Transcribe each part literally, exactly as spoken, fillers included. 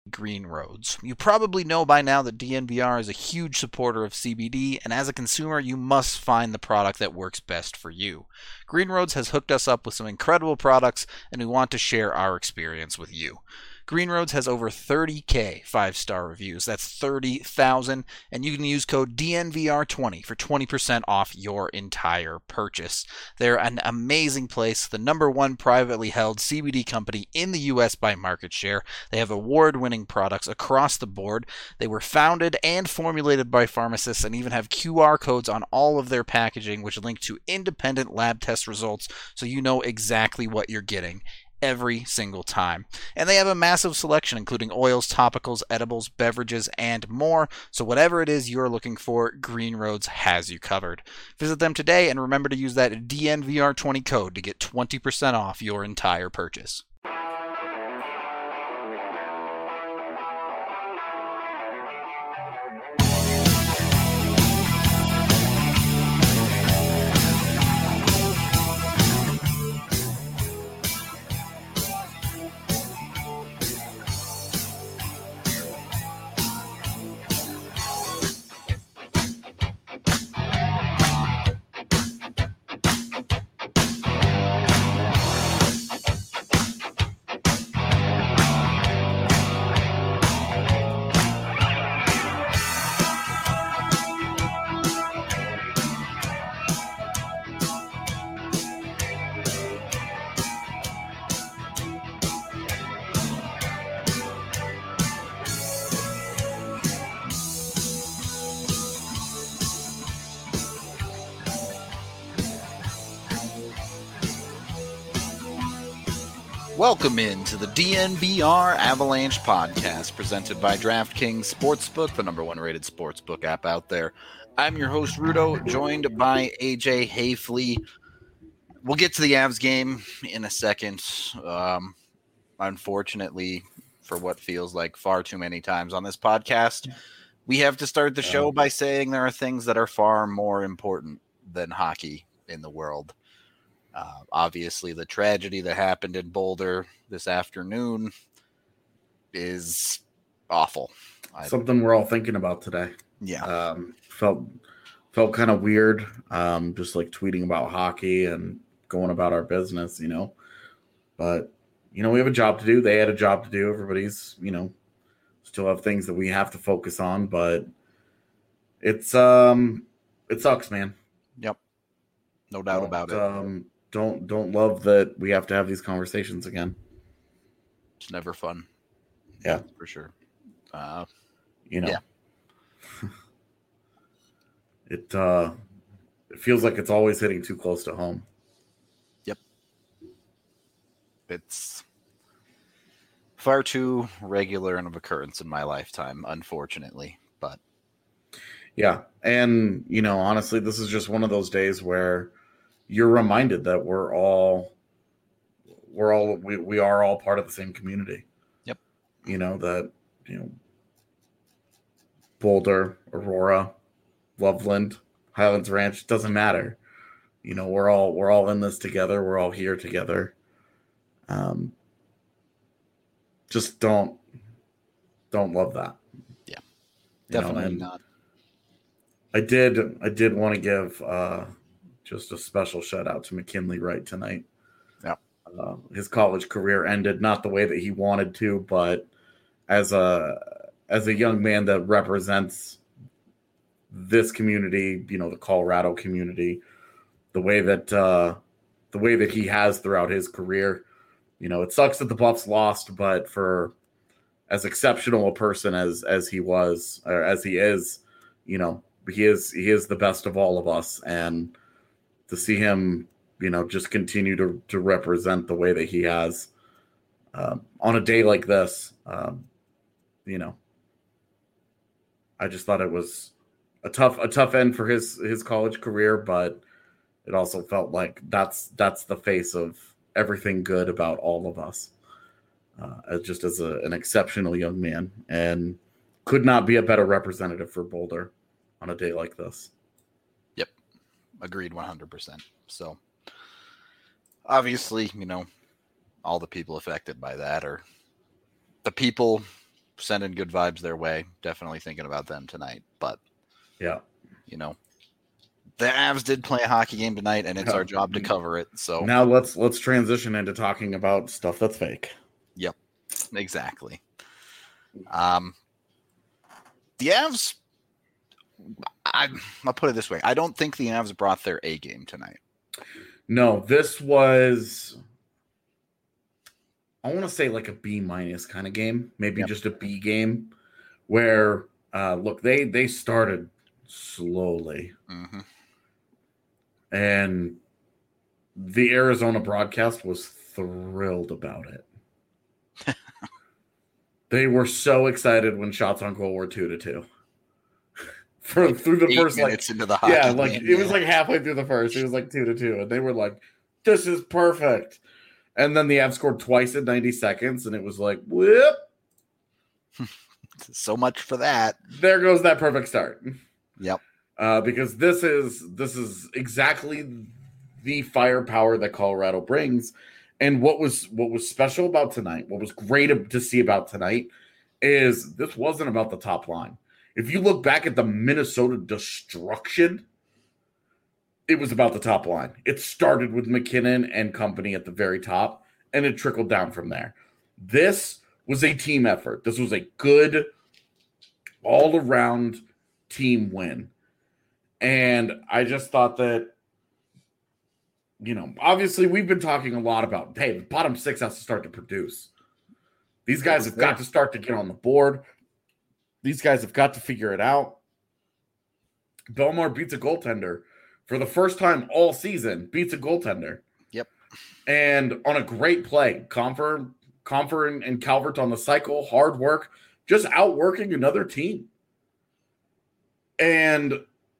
Green Roads. You probably know by now that D N V R is a huge supporter of C B D, and as a consumer, you must find the product that works best for you. Green Roads has hooked us up with some incredible products, and we want to share our experience with you. Green Roads has over thirty thousand five-star reviews. That's thirty thousand, and you can use code D N V R twenty for twenty percent off your entire purchase. They're an amazing place, the number one privately held C B D company in the U S by market share. They have award-winning products across the board. They were founded and formulated by pharmacists and even have Q R codes on all of their packaging, which link to independent lab test results so you know exactly what you're getting every single time. And they have a massive selection, including oils, topicals, edibles, beverages, and more. So whatever it is you're looking for, Green Roads has you covered. Visit them today and remember to use that D N V R twenty code to get twenty percent off your entire purchase. Welcome into the D N V R Avalanche podcast presented by DraftKings Sportsbook, the number one rated sportsbook app out there. I'm your host, Rudo, joined by A J Hayfley. We'll get to the Avs game in a second. Um, unfortunately, for what feels like far too many times on this podcast, we have to start the show by saying there are things that are far more important than hockey in the world. Uh, obviously, the tragedy that happened in Boulder this afternoon is awful. Something we're all thinking about today. Yeah. Um, felt felt kind of weird, um, just like tweeting about hockey and going about our business, you know. But, you know, we have a job to do. They had a job to do. Everybody's, you know, still have things that we have to focus on. But it's, um, it sucks, man. Yep. No doubt about it. Um, Don't don't love that we have to have these conversations again. It's never fun. Yeah, That's for sure. Uh, you know, yeah. it uh, it feels like it's always hitting too close to home. Yep. It's far too regular of occurrence in my lifetime, unfortunately. But yeah, and you know, honestly, this is just one of those days where you're reminded that we're all we're all we, we are all part of the same community. Yep. You know, that, you know, Boulder, Aurora, Loveland, Highlands Ranch, doesn't matter. You know, we're all we're all in this together. We're all here together. Um just don't don't love that. Yeah. Definitely you know, not. I did I did want to give uh just a special shout out to McKinley Wright tonight. Yeah. Uh, his college career ended not the way that he wanted to, but as a as a young man that represents this community, you know, the Colorado community, the way that uh, the way that he has throughout his career, you know, it sucks that the Buffs lost, but for as exceptional a person as as he was or as he is, you know, he is he is the best of all of us, and to see him, you know, just continue to, to represent the way that he has uh, on a day like this, um, you know, I just thought it was a tough a tough end for his his college career, but it also felt like that's that's the face of everything good about all of us, uh, as just as a, an exceptional young man, and could not be a better representative for Boulder on a day like this. Agreed one hundred percent. So obviously, you know, all the people affected by that are the people sending good vibes their way. Definitely thinking about them tonight. But, yeah, you know, the Avs did play a hockey game tonight, and it's yeah. our job to cover it. So now let's let's transition into talking about stuff that's fake. Yep, exactly. Um, the Avs, I, I'll put it this way. I don't think the Avs brought their A game tonight. No, this was, I want to say like a B minus kind of game, maybe yep. just a B game where, uh, look, they, they started slowly. Mm-hmm. And the Arizona broadcast was thrilled about it. They were so excited when shots on goal were two to two. For like through the eight first like into the hockey yeah, like game, it yeah. was like halfway through the first, it was like two to two, and they were like, "This is perfect." And then the Avs scored twice in ninety seconds, and it was like, "Whoop!" So much for that. There goes that perfect start. Yep. Uh, because this is this is exactly the firepower that Colorado brings. And what was what was special about tonight, what was great to see about tonight, is this wasn't about the top line. If you look back at the Minnesota destruction, it was about the top line. It started with McKinnon and company at the very top, and it trickled down from there. This was a team effort. This was a good, all-around team win. And I just thought that, you know, obviously we've been talking a lot about, hey, the bottom six has to start to produce. These guys have got to start to get on the board. These guys have got to figure it out. Bellemare beats a goaltender for the first time all season, beats a goaltender. Yep. And on a great play, Compher, Compher and, and Calvert on the cycle, hard work, just outworking another team. And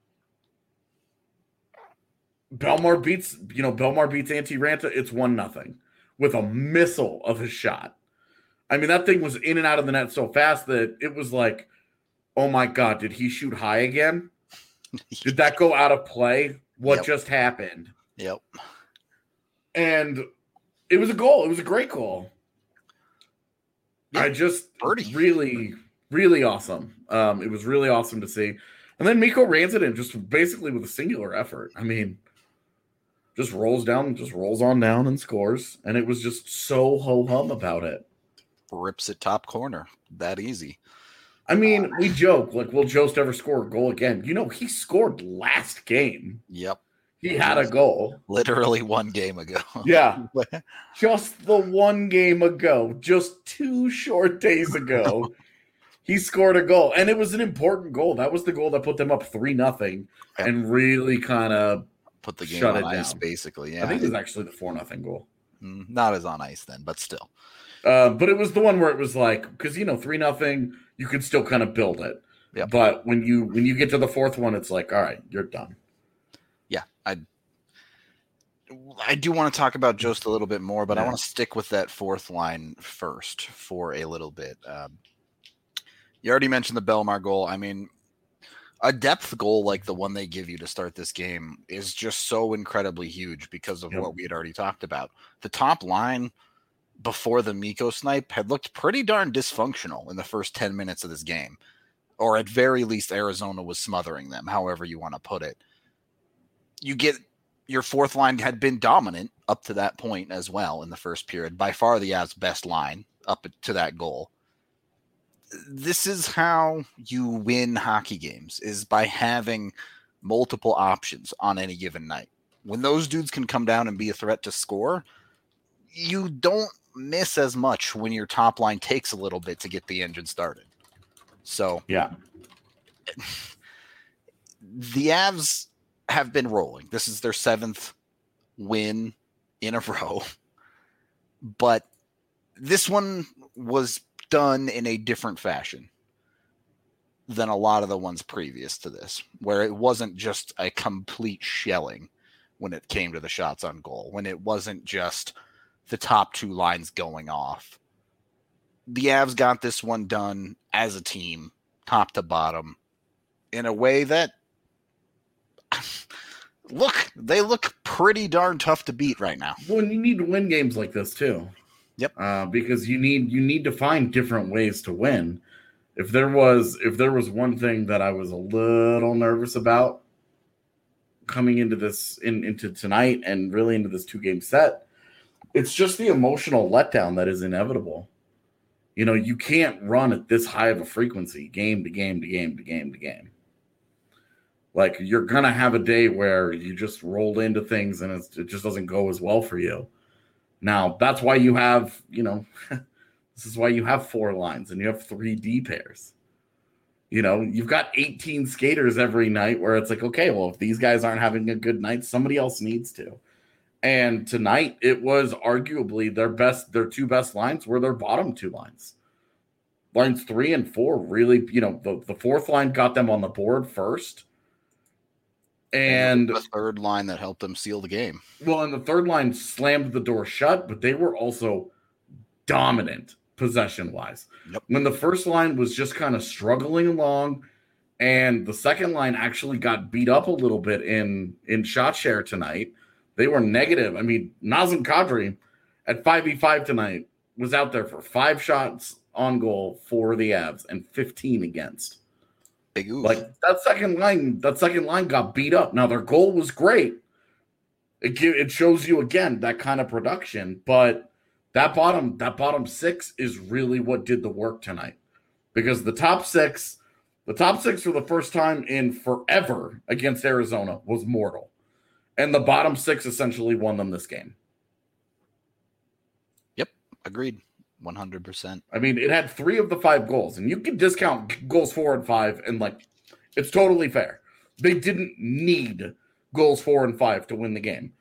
Bellemare beats, you know, Bellemare beats Antti Raanta. It's one nothing with a missile of a shot. I mean, that thing was in and out of the net so fast that it was like, oh my God, did he shoot high again? Did that go out of play? What yep. just happened? Yep. And it was a goal. It was a great goal. Yeah, I just birdie. really, really awesome. Um, it was really awesome to see. And then Mikko Rantanen just basically with a singular effort. I mean, just rolls down, just rolls on down and scores. And it was just so ho-hum about it. Rips it top corner. That easy. I mean, we joke, like, will Jost ever score a goal again? You know, he scored last game. Yep. He had a goal. Literally one game ago. Yeah. Just the one game ago, just two short days ago, he scored a goal. And it was an important goal. That was the goal that put them up three nothing yep. and really kind of put the game shut on it ice, down. Basically. Yeah. I think it was actually the four nothing goal. Not as on ice then, but still. Uh, but it was the one where it was like, because, you know, three nothing, you could still kind of build it. Yep. But when you when you get to the fourth one, it's like, all right, you're done. Yeah, I I do want to talk about Jost a little bit more, but yeah. I want to stick with that fourth line first for a little bit. Um, you already mentioned the Bellemare goal. I mean, a depth goal like the one they give you to start this game is just so incredibly huge because of yep. what we had already talked about. The top line before the Mikko snipe had looked pretty darn dysfunctional in the first ten minutes of this game. Or at very least, Arizona was smothering them, however you want to put it. You get your fourth line had been dominant up to that point as well in the first period. By far the Avs' best line up to that goal. This is how you win hockey games, is by having multiple options on any given night. When those dudes can come down and be a threat to score, you don't miss as much when your top line takes a little bit to get the engine started. So yeah, the Avs have been rolling. This is their seventh win in a row, but this one was done in a different fashion than a lot of the ones previous to this, where it wasn't just a complete shelling when it came to the shots on goal, when it wasn't just the top two lines going off. The Avs got this one done as a team, top to bottom, in a way that, look, they look pretty darn tough to beat right now. Well, and you need to win games like this too. Yep. Uh, because you need you need to find different ways to win. If there was if there was one thing that I was a little nervous about coming into this in, into tonight and really into this two game set, it's just the emotional letdown that is inevitable. You know, you can't run at this high of a frequency game to game to game to game to game. Like, you're going to have a day where you just roll into things and it's, it just doesn't go as well for you. Now, that's why you have, you know, this is why you have four lines and you have three D pairs. You know, you've got eighteen skaters every night where it's like, okay, well, if these guys aren't having a good night, somebody else needs to. And tonight, it was arguably their best, their two best lines were their bottom two lines. Lines three and four really, you know, the, the fourth line got them on the board first. And the third line that helped them seal the game. Well, and the third line slammed the door shut, but they were also dominant possession-wise. Yep. When the first line was just kind of struggling along, and the second line actually got beat up a little bit in, in shot share tonight, they were negative. I mean, Nazem Kadri at five v five tonight was out there for five shots on goal for the Avs and fifteen against. Big oof. Like, that second line, that second line got beat up. Now, their goal was great. It it shows you again that kind of production, but that bottom that bottom six is really what did the work tonight. Because the top six, the top six for the first time in forever against Arizona was mortal. And the bottom six essentially won them this game. Yep, agreed. one hundred percent. I mean, it had three of the five goals, and you can discount goals four and five, and like, it's totally fair. They didn't need goals four and five to win the game,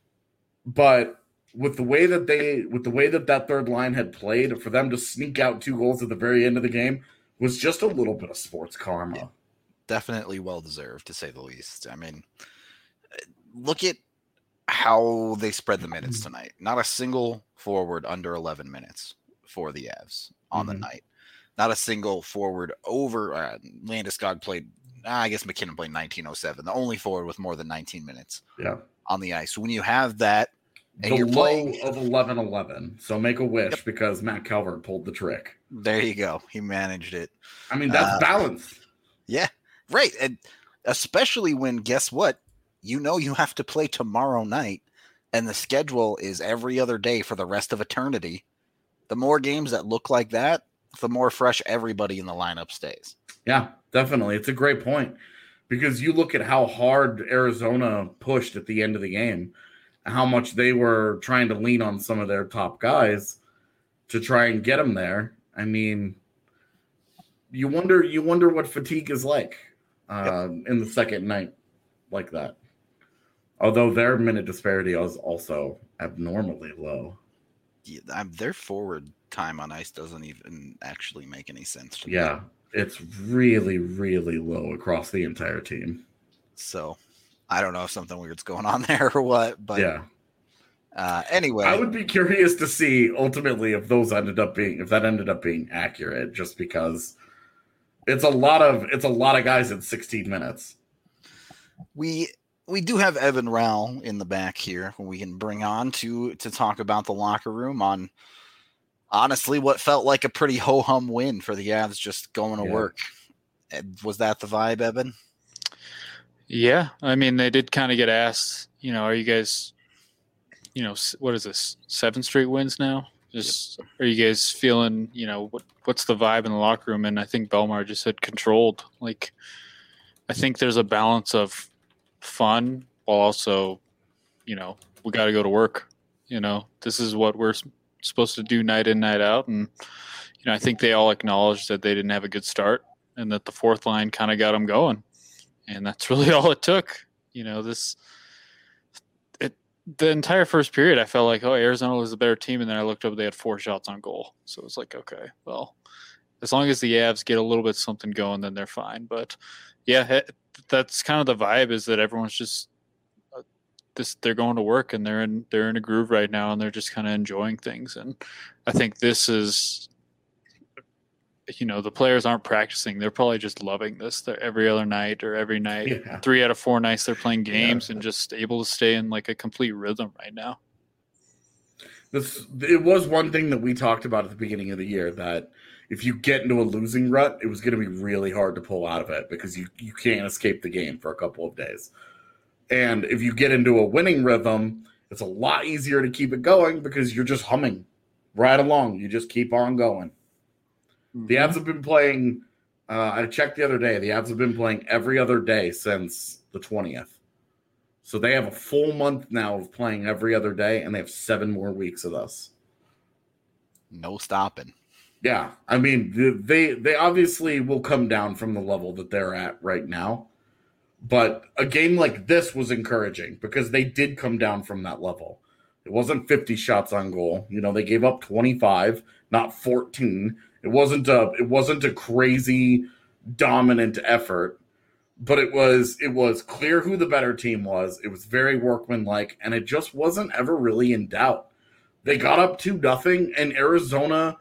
but with the way that they, with the way that that third line had played, for them to sneak out two goals at the very end of the game was just a little bit of sports karma. Yeah, definitely well deserved, to say the least. I mean, look at how they spread the minutes tonight. Not a single forward under eleven minutes for the Avs on Mm-hmm. the night. Not a single forward over. Uh, Landeskog played, I guess McKinnon played nineteen oh seven. The only forward with more than nineteen minutes Yeah. on the ice. So when you have that, and The you're low playing, of eleven eleven. So make a wish, Yep. because Matt Calvert pulled the trick. there you go. He managed it. I mean, that's Uh, balance. Yeah, right. And especially when, guess what? You know you have to play tomorrow night, and the schedule is every other day for the rest of eternity. The more games that look like that, the more fresh everybody in the lineup stays. Yeah, definitely. It's a great point, because you look at how hard Arizona pushed at the end of the game, how much they were trying to lean on some of their top guys to try and get them there. I mean, you wonder you wonder what fatigue is like uh, in the second night like that. Although their minute disparity is also abnormally low. Yeah, I'm, their forward time on ice doesn't even actually make any sense to me. Yeah, it's really, really low across the entire team. So I don't know if something weird's going on there or what, but Yeah. uh, anyway. I would be curious to see ultimately if those ended up being if that ended up being accurate, just because it's a lot of it's a lot of guys in sixteen minutes. We we do have Evan Rowell in the back here who we can bring on to to talk about the locker room on honestly what felt like a pretty ho-hum win for the Avs just going to Yeah. work. Was that the vibe, Evan? Yeah, I mean, they did kind of get asked, you know, are you guys, you know, s- what is this, seven straight wins now? Just are you guys feeling, you know, what what's the vibe in the locker room? And I think Belmar just said controlled. Like, I think there's a balance of fun while also, you know, we got to go to work. You know, this is what we're s- supposed to do night in, night out. And, you know, I think they all acknowledged that they didn't have a good start and that the fourth line kind of got them going. And that's really all it took. You know, this, it, the entire first period, I felt like, oh, Arizona was a better team. And then I looked up, they had four shots on goal. So it was like, okay, well, as long as the Avs get a little bit something going, then they're fine. But yeah, it, that's kind of the vibe, is that everyone's just uh, this, they're going to work and they're in, they're in a groove right now and they're just kind of enjoying things. And I think this is, you know, the players aren't practicing. They're probably just loving this. They're every other night or every night, Yeah. three out of four nights they're playing games Yeah. and just able to stay in like a complete rhythm right now. This it was one thing that we talked about at the beginning of the year, that if you get into a losing rut, it was going to be really hard to pull out of it because you, you can't escape the game for a couple of days. And if you get into a winning rhythm, it's a lot easier to keep it going because you're just humming right along. You just keep on going. Mm-hmm. The Avs have been playing, uh, I checked the other day, the Avs have been playing every other day since the twentieth. So they have a full month now of playing every other day, and they have seven more weeks of this. No stopping. Yeah, I mean, they they obviously will come down from the level that they're at right now. But a game like this was encouraging because they did come down from that level. It wasn't fifty shots on goal. You know, they gave up twenty-five, not fourteen. It wasn't a it wasn't a crazy dominant effort, but it was it was clear who the better team was. It was very workmanlike, and it just wasn't ever really in doubt. They got up two nothing, and Arizona,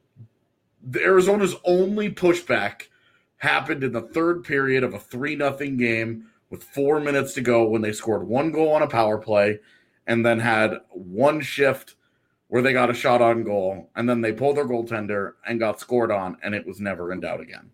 the Arizona's only pushback happened in the third period of a three nothing game with four minutes to go when they scored one goal on a power play and then had one shift where they got a shot on goal, and then they pulled their goaltender and got scored on, and it was never in doubt again.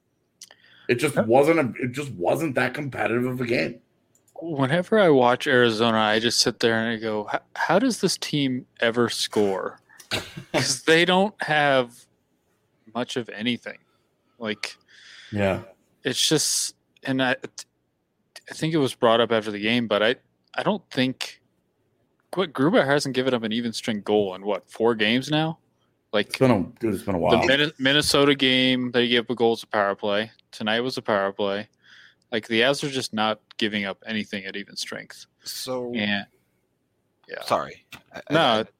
It just wasn't a, it just wasn't that competitive of a game. Whenever I watch Arizona, I just sit there and I go, how does this team ever score? Because they don't have much of anything. Like, yeah, it's just, and I, I think it was brought up after the game, but I, I don't think, what Gruber hasn't given up an even strength goal in what, four games now? Like, it's been a, dude, it's been a while. The Minnesota game, they gave up goals a power play. Tonight was a power play. Like, the Avs are just not giving up anything at even strength. So, and, yeah. Sorry. I, no, I, it,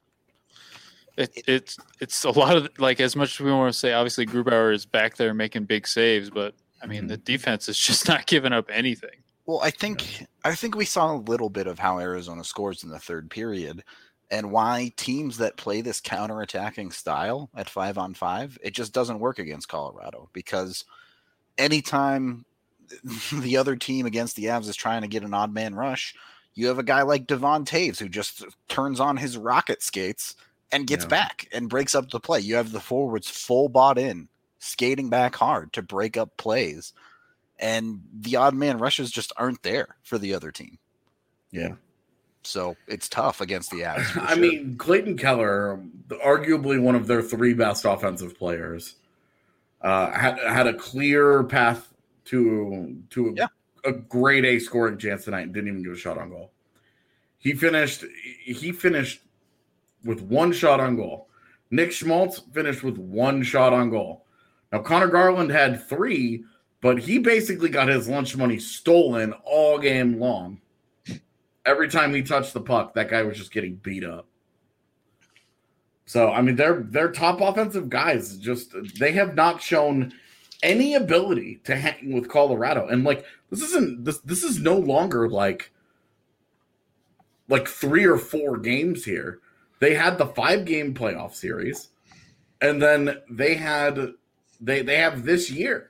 it, it's it's a lot of, like, as much as we want to say, obviously Grubauer is back there making big saves, but, I mean, mm-hmm. the defense is just not giving up anything. Well, I think I think we saw a little bit of how Arizona scores in the third period and why teams that play this counterattacking style at five on five, it just doesn't work against Colorado because anytime the other team against the Avs is trying to get an odd man rush, you have a guy like Devon Taves who just turns on his rocket skates and gets yeah. back and breaks up the play. You have the forwards full bought in, skating back hard to break up plays. And the odd man rushes just aren't there for the other team. Yeah. So it's tough against the Avs. I sure. mean, Clayton Keller, arguably one of their three best offensive players, uh, had had a clear path to to a, yeah. a grade A scoring chance tonight and didn't even give a shot on goal. He finished he finished with one shot on goal. Nick Schmaltz finished with one shot on goal. Now Connor Garland had three, but he basically got his lunch money stolen all game long. Every time he touched the puck, that guy was just getting beat up. So, I mean, they're, they're top offensive guys. Just they have not shown any ability to hang with Colorado. And, like, this isn't this this is no longer like, like three or four games here. They had the five-game playoff series, and then they had they they have this year.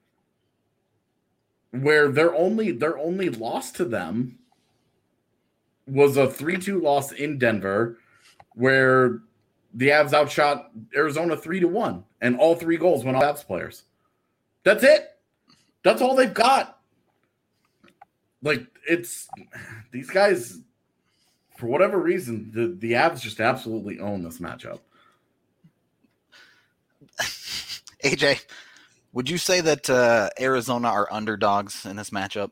Where their only their only loss to them was a three two loss in Denver, where the Avs outshot Arizona three to one, and all three goals went off Avs players. That's it. That's all they've got. Like, it's these guys, for whatever reason, the, the Avs just absolutely own this matchup. A J, would you say that uh, Arizona are underdogs in this matchup?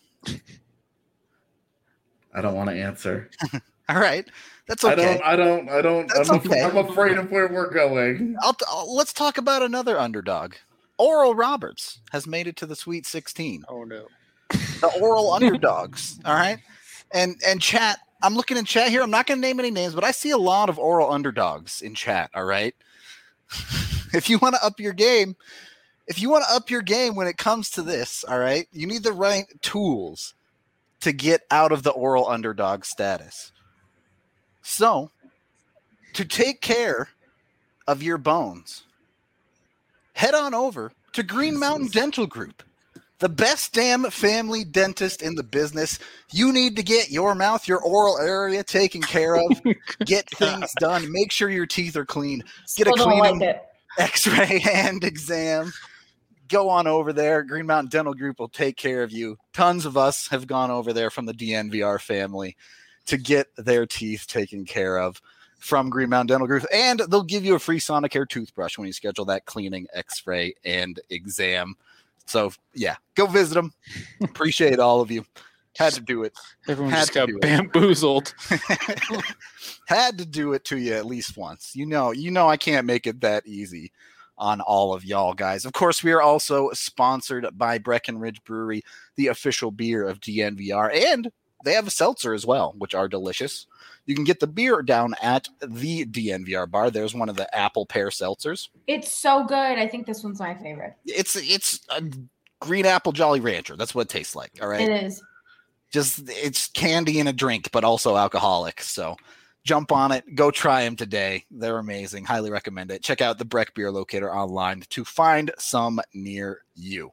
I don't want to answer. All right, that's okay. I don't. I don't. I don't. That's I'm, okay. I'm afraid of where we're going. I'll, I'll, let's talk about another underdog. Oral Roberts has made it to the Sweet sixteen. Oh no, the Oral underdogs. All right, and and chat. I'm looking in chat here. I'm not going to name any names, but I see a lot of Oral underdogs in chat. All right, if you want to up your game. If you want to up your game when it comes to this, all right, you need the right tools to get out of the Oral underdog status. So, to take care of your bones, head on over to Green Mountain Dental Group, the best damn family dentist in the business. You need to get your mouth, your oral area taken care of, get things done, make sure your teeth are clean, get Still a don't cleaning. like it. X-ray and exam. Go on over there. Green Mountain Dental Group will take care of you. Tons of us have gone over there from the D N V R family to get their teeth taken care of from Green Mountain Dental Group. And they'll give you a free Sonicare toothbrush when you schedule that cleaning, X-ray, and exam. So, yeah, go visit them. Appreciate all of you. Had to do it. Everyone Had just to got do it. bamboozled. Had to do it to you at least once. You know, you know I can't make it that easy on all of y'all guys. Of course, we are also sponsored by Breckenridge Brewery, the official beer of D N V R, and they have a seltzer as well, which are delicious. You can get the beer down at the D N V R bar. There's one of the apple pear seltzers. It's so good. I think this one's my favorite. It's it's a green apple Jolly Rancher. That's what it tastes like. All right. It is. Just it's candy in a drink, but also alcoholic. So jump on it. Go try them today. They're amazing. Highly recommend it. Check out the Breck Beer Locator online to find some near you.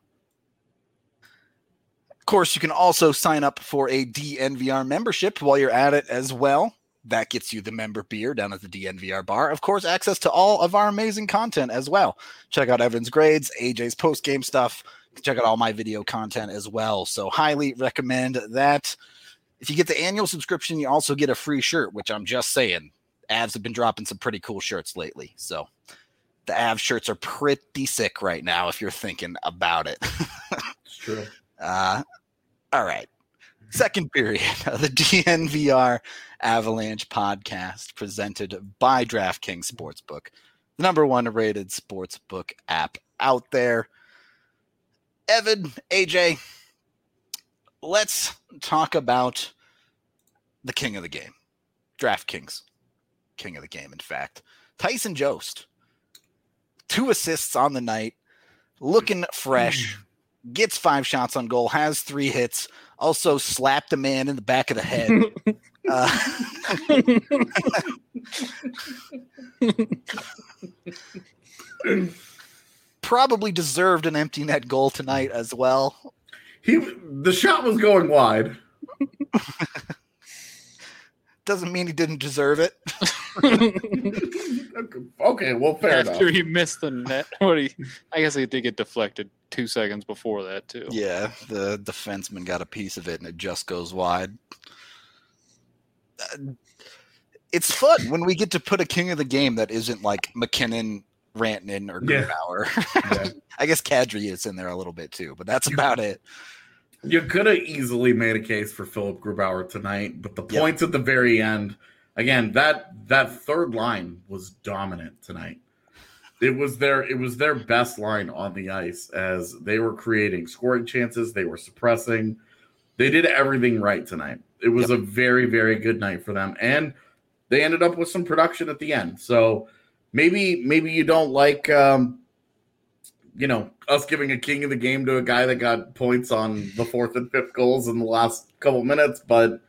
Of course, you can also sign up for a D N V R membership while you're at it as well. That gets you the member beer down at the D N V R bar. Of course, access to all of our amazing content as well. Check out Evan's grades, A J's post-game stuff. Check out all my video content as well. So highly recommend that. If you get the annual subscription, you also get a free shirt, which I'm just saying. Avs have been dropping some pretty cool shirts lately. So the Avs shirts are pretty sick right now if you're thinking about it. It's true. Uh, all right. Second period of the D N V R Avalanche podcast presented by DraftKings Sportsbook, the number one rated sportsbook app out there. Evan, A J, let's talk about the king of the game. DraftKings, king of the game, in fact. Tyson Jost, two assists on the night, looking fresh, gets five shots on goal, has three hits, also slapped a man in the back of the head. uh, probably deserved an empty net goal tonight as well. He the shot was going wide. Doesn't mean he didn't deserve it. Okay, well, fair enough. After he missed the net, what he, I guess he did get deflected two seconds before that too. Yeah, the defenseman got a piece of it, and it just goes wide. Uh, it's fun when we get to put a king of the game that isn't like McKinnon, Rantanen, or Yeah. Grubauer. Yeah. I guess Kadri is in there a little bit too, but that's about it. You could have easily made a case for Philip Grubauer tonight, but the Yep. points at the very end, again, that that third line was dominant tonight. It was their it was their best line on the ice as they were creating scoring chances, they were suppressing. They did everything right tonight. It was Yep. a very, very good night for them. And they ended up with some production at the end. So maybe maybe you don't like um, you know, us giving a king of the game to a guy that got points on the fourth and fifth goals in the last couple minutes, but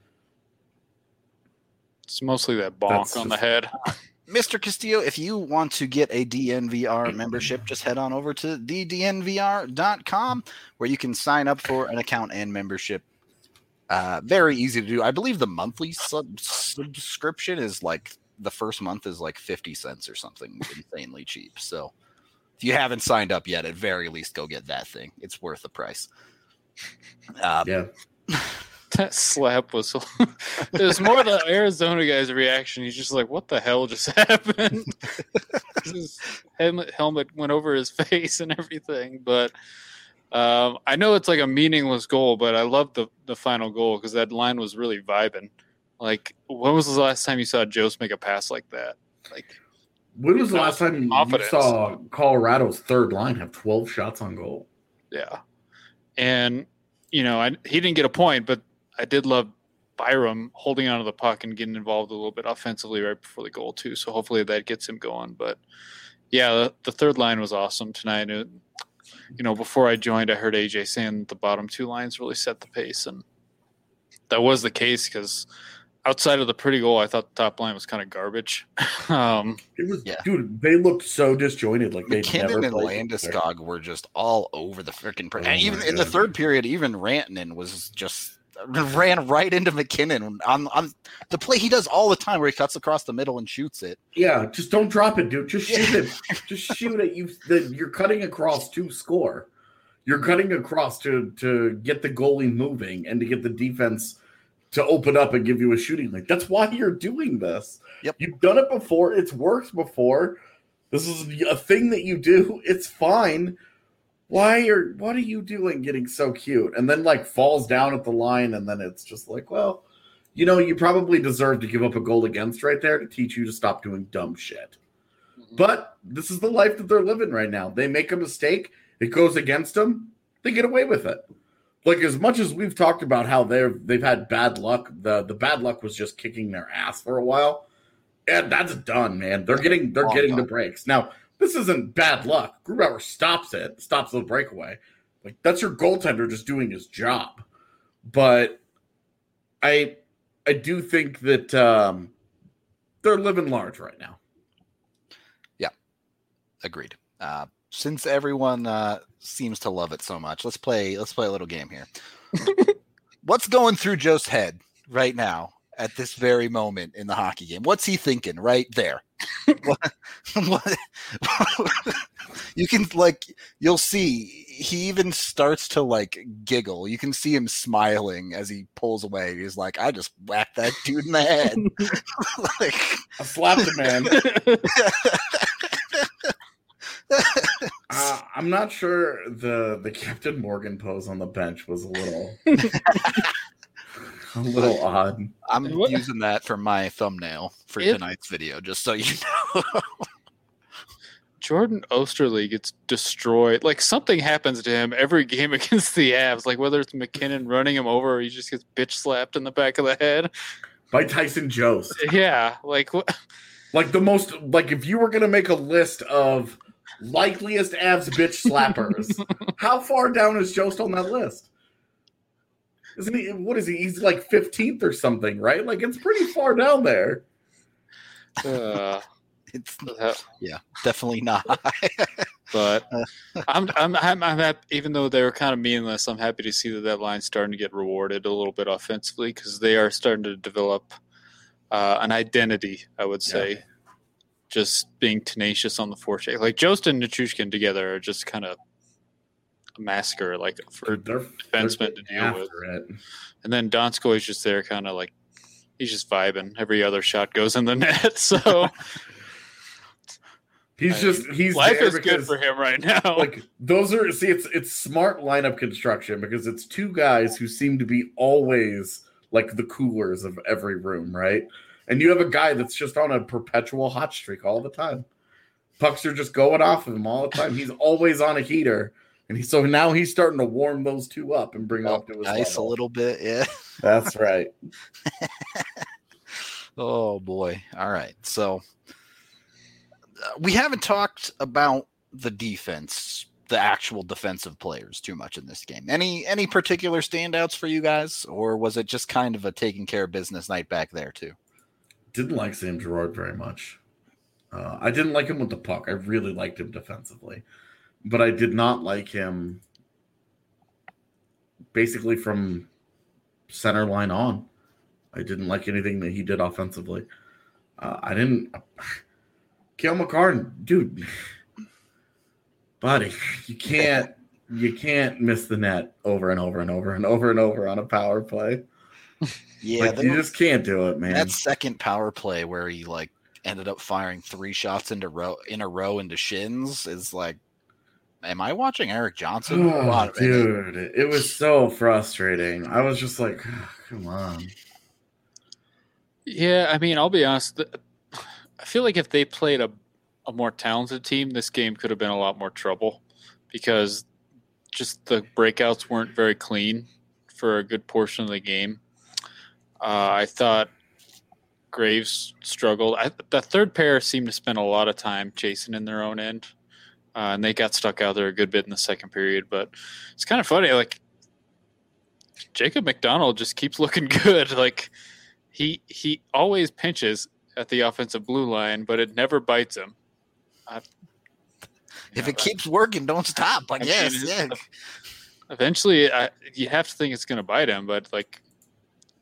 It's mostly that bonk That's on just- the head. Mister Castillo, if you want to get a D N V R membership, just head on over to the D N V R dot com where you can sign up for an account and membership. Uh, very easy to do. I believe the monthly sub- subscription is like the first month is like fifty cents or something insanely cheap. So if you haven't signed up yet, at very least go get that thing. It's worth the price. Uh, yeah. That slap was. It was more the Arizona guy's reaction. He's just like, "What the hell just happened?" His helmet, helmet went over his face and everything. But um, I know it's like a meaningless goal, but I love the the final goal because that line was really vibing. Like, when was the last time you saw Jost make a pass like that? Like, When was the last time you Confidence. saw Colorado's third line have twelve shots on goal? yeah. And you know, I, he didn't get a point, but I did love Byram holding onto the puck and getting involved a little bit offensively right before the goal too. So hopefully that gets him going. But yeah, the, the third line was awesome tonight. It, you know, before I joined, I heard A J saying that the bottom two lines really set the pace, and that was the case because outside of the pretty goal, I thought the top line was kind of garbage. um, It was, Yeah. dude. They looked so disjointed. Like they never McKinnon and played together. Landeskog were just all over the freaking. Per- Oh and even my in the God. third period, even Rantanen was just ran right into McKinnon on on the play he does all the time, where he cuts across the middle and shoots it. Yeah, just don't drop it, dude. Just shoot it. Just shoot it. You the, you're cutting across to score. You're cutting across to to get the goalie moving and to get the defense to open up and give you a shooting lane. That's why you're doing this. Yep. You've done it before. It's worked before. This is a thing that you do. It's fine. Why are what are you doing getting so cute? And then like falls down at the line, and then it's just like, well, you know, you probably deserve to give up a goal against right there to teach you to stop doing dumb shit. Mm-hmm. But this is the life that they're living right now. They make a mistake, it goes against them, they get away with it. Like, as much as we've talked about how they're they've had bad luck, the the bad luck was just kicking their ass for a while. And that's done, man. They're getting they're getting the breaks. Now, this isn't bad luck. Grubauer stops it, stops the breakaway. Like, that's your goaltender just doing his job. But I I do think that um, they're living large right now. Yeah, agreed. Uh, since everyone uh, seems to love it so much, let's play let's play a little game here. What's going through Joe's head right now at this very moment in the hockey game? What's he thinking right there? what, what, you can, like, you'll see he even starts to, like, giggle. You can see him smiling as he pulls away. He's like, I just whacked that dude in the head. Like, I slapped him, man. uh, I'm not sure the the Captain Morgan pose on the bench was a little a little odd. I'm What? using that for my thumbnail for It- tonight's video, just so you know. Jordan Osterley gets destroyed. Like, something happens to him every game against the Avs. Like, whether it's McKinnon running him over or he just gets bitch slapped in the back of the head. By Tyson Jost. Yeah, like what? Like the most, like if you were going to make a list of likeliest Avs bitch slappers, how far down is Jost on that list? Isn't he, what is he? He's like fifteenth or something, right? Like, it's pretty far down there. Uh, It's uh, yeah, definitely not. but I'm, I'm, I'm, I'm happy, even though they were kind of meaningless, I'm happy to see that that line's starting to get rewarded a little bit offensively, because they are starting to develop uh, an identity, I would say. Yeah. Just being tenacious on the forecheck. Like, Jost and Nichushkin together are just kind of a massacre, like, for Dude, they're, defensemen they're to deal after with. it. And then Donskoy is just there, kind of like, he's just vibing. Every other shot goes in the net, so He's I just he's life there is good because, for him right now. like, those are see it's it's smart lineup construction because it's two guys who seem to be always like the coolers of every room, right? And you have a guy that's just on a perpetual hot streak all the time. Pucks are just going off of him all the time. He's always on a heater, and he, so now he's starting to warm those two up and bring them up to his Nice level. a little bit, yeah. That's right. Oh boy. All right. So uh, we haven't talked about the defense, the actual defensive players too much in this game. Any any particular standouts for you guys, or was it just kind of a taking care of business night back there too? Didn't like Sam Girard very much. Uh, I didn't like him with the puck. I really liked him defensively, but I did not like him basically from center line on. I didn't like anything that he did offensively. Uh, I didn't. Cale Makar, dude, buddy, you can't you can't miss the net over and over and over and over and over on a power play. Yeah, Like, the- you just can't do it, man. that second power play where he like ended up firing three shots into row in a row into shins is like, am I watching Eric Johnson? Hold Oh, on a minute. dude, it was so frustrating. I was just like, oh, come on. Yeah, I mean, I'll be honest. th- I feel like if they played a, a more talented team, this game could have been a lot more trouble, because just the breakouts weren't very clean for a good portion of the game. Uh, I thought Graves struggled. I, the third pair seemed to spend a lot of time chasing in their own end, uh, and they got stuck out there a good bit in the second period. But it's kind of funny. Like, Jacob McDonald just keeps looking good. Like, he he always pinches at the offensive blue line, but it never bites him. I, If Yeah, it keeps working, don't stop. I I mean, guess. it's- Yeah. eventually, I, you have to think it's going to bite him, but like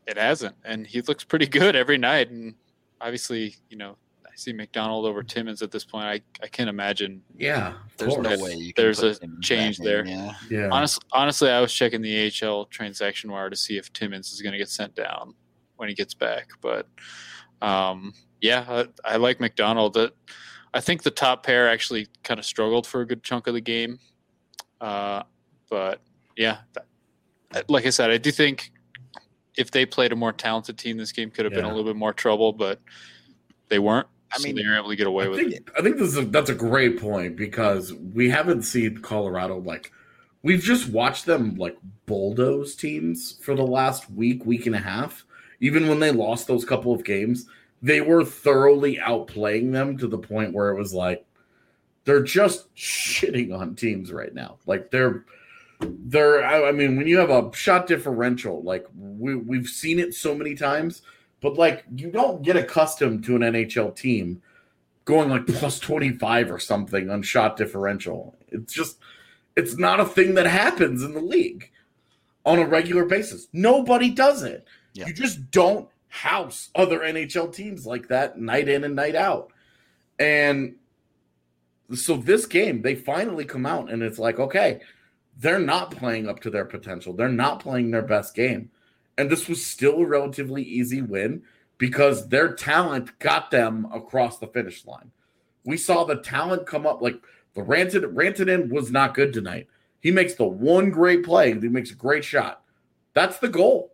it hasn't, and he looks pretty good every night. And obviously, you know, I see McDonald over Timmins at this point. I, I can't imagine. Yeah, There's course. no way you can There's put a him in change that there. game, Yeah. Yeah. Honestly, honestly, I was checking the A H L transaction wire to see if Timmins is going to get sent down when he gets back. But um, yeah, I, I like McDonald. I think the top pair actually kind of struggled for a good chunk of the game. Uh, but yeah, that, like I said, I do think if they played a more talented team, this game could have been a Yeah. little bit more trouble, but they weren't. I so mean, they were able to get away I with think, it. I think this is a, that's a great point because we haven't seen Colorado like we've just watched them like bulldoze teams for the last week, week and a half. Even when they lost those couple of games, they were thoroughly outplaying them to the point where it was like they're just shitting on teams right now. Like they're they're I, I mean, when you have a shot differential, like we we've seen it so many times. But, like, you don't get accustomed to an N H L team going, like, plus twenty-five or something on shot differential. It's just – it's not a thing that happens in the league on a regular basis. Nobody does it. Yeah. You just don't house other N H L teams like that night in and night out. And so this game, they finally come out, and it's like, okay, they're not playing up to their potential. They're not playing their best game. And this was still a relatively easy win because their talent got them across the finish line. We saw the talent come up. Like the Rantanen, Rantanen was not good tonight. He makes the one great play. He makes a great shot. That's the goal.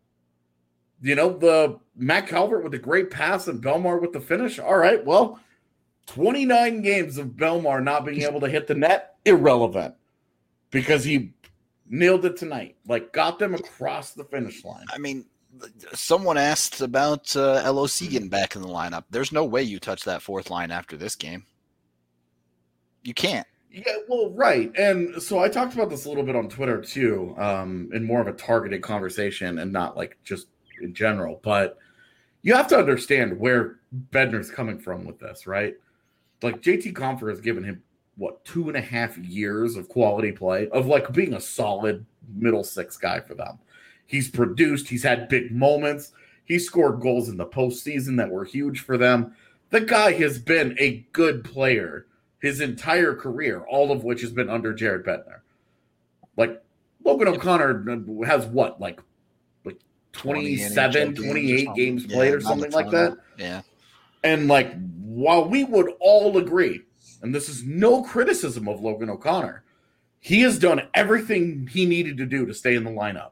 You know, the Matt Calvert with the great pass and Belmar with the finish. All right, well, twenty-nine games of Belmar not being able to hit the net, irrelevant because he nailed it tonight. Like, got them across the finish line. I mean, someone asked about uh, L O C getting back in the lineup. There's no way you touch that fourth line after this game. You can't. Yeah, well, right. And so I talked about this a little bit on Twitter, too, um, in more of a targeted conversation and not, like, just in general. But you have to understand where Bednar's coming from with this, right? Like, J T Compher has given him what, two and a half years of quality play, of like being a solid middle six guy for them. He's produced, he's had big moments, he scored goals in the postseason that were huge for them. The guy has been a good player his entire career, all of which has been under Jared Bednar. Like, Logan O'Connor has what, like, like twenty-seven, twenty-eight games played yeah, or something like that? Yeah. And like, while we would all agree, and this is no criticism of Logan O'Connor, he has done everything he needed to do to stay in the lineup.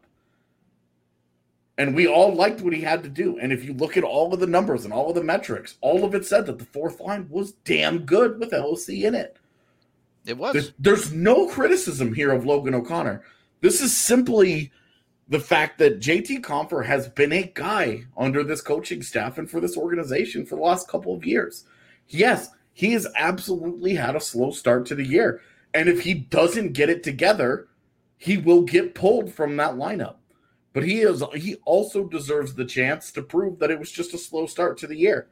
And we all liked what he had to do. And if you look at all of the numbers and all of the metrics, all of it said that the fourth line was damn good with L O C in it. It was. There's, there's no criticism here of Logan O'Connor. This is simply the fact that J T Compher has been a guy under this coaching staff and for this organization for the last couple of years. Yes, he has absolutely had a slow start to the year. And if he doesn't get it together, he will get pulled from that lineup. But he is he also deserves the chance to prove that it was just a slow start to the year.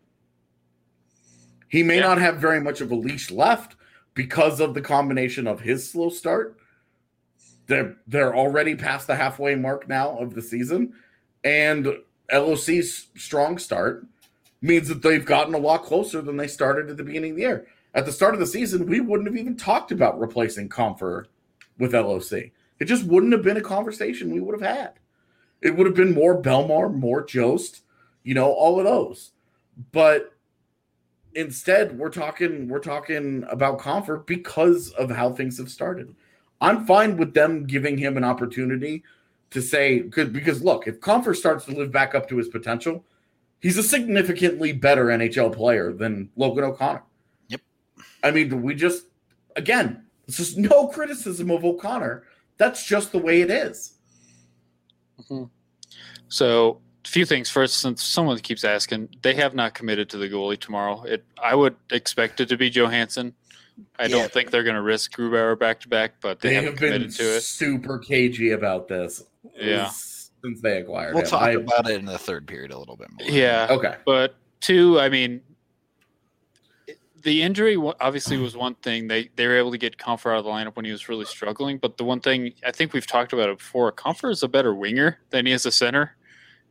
He may Yeah. not have very much of a leash left because of the combination of his slow start. They're, they're already past the halfway mark now of the season. And L O C's strong start means that they've gotten a lot closer than they started at the beginning of the year. At the start of the season, we wouldn't have even talked about replacing Compher with L O C. It just wouldn't have been a conversation we would have had. It would have been more Belmar, more Jost, you know, all of those. But instead, we're talking we're talking about Compher because of how things have started. I'm fine with them giving him an opportunity to say, because, because look, if Compher starts to live back up to his potential, he's a significantly better N H L player than Logan O'Connor. Yep. I mean, we just, again, it's just no criticism of O'Connor. That's just the way it is. Mm-hmm. So, a few things. First, since someone keeps asking, they have not committed to the goalie tomorrow. It, I would expect it to be Johansson. I Yeah. don't think they're going to risk Grubauer back to back, but they, They haven't have been committed to it. super cagey about this Yeah. since they acquired We'll him. talk I- about it in the third period a little bit more. Yeah, Okay. but two, I mean, the injury wa- obviously was one thing. They they were able to get Compher out of the lineup when he was really struggling. But the one thing I think we've talked about it before, Compher is a better winger than he is a center.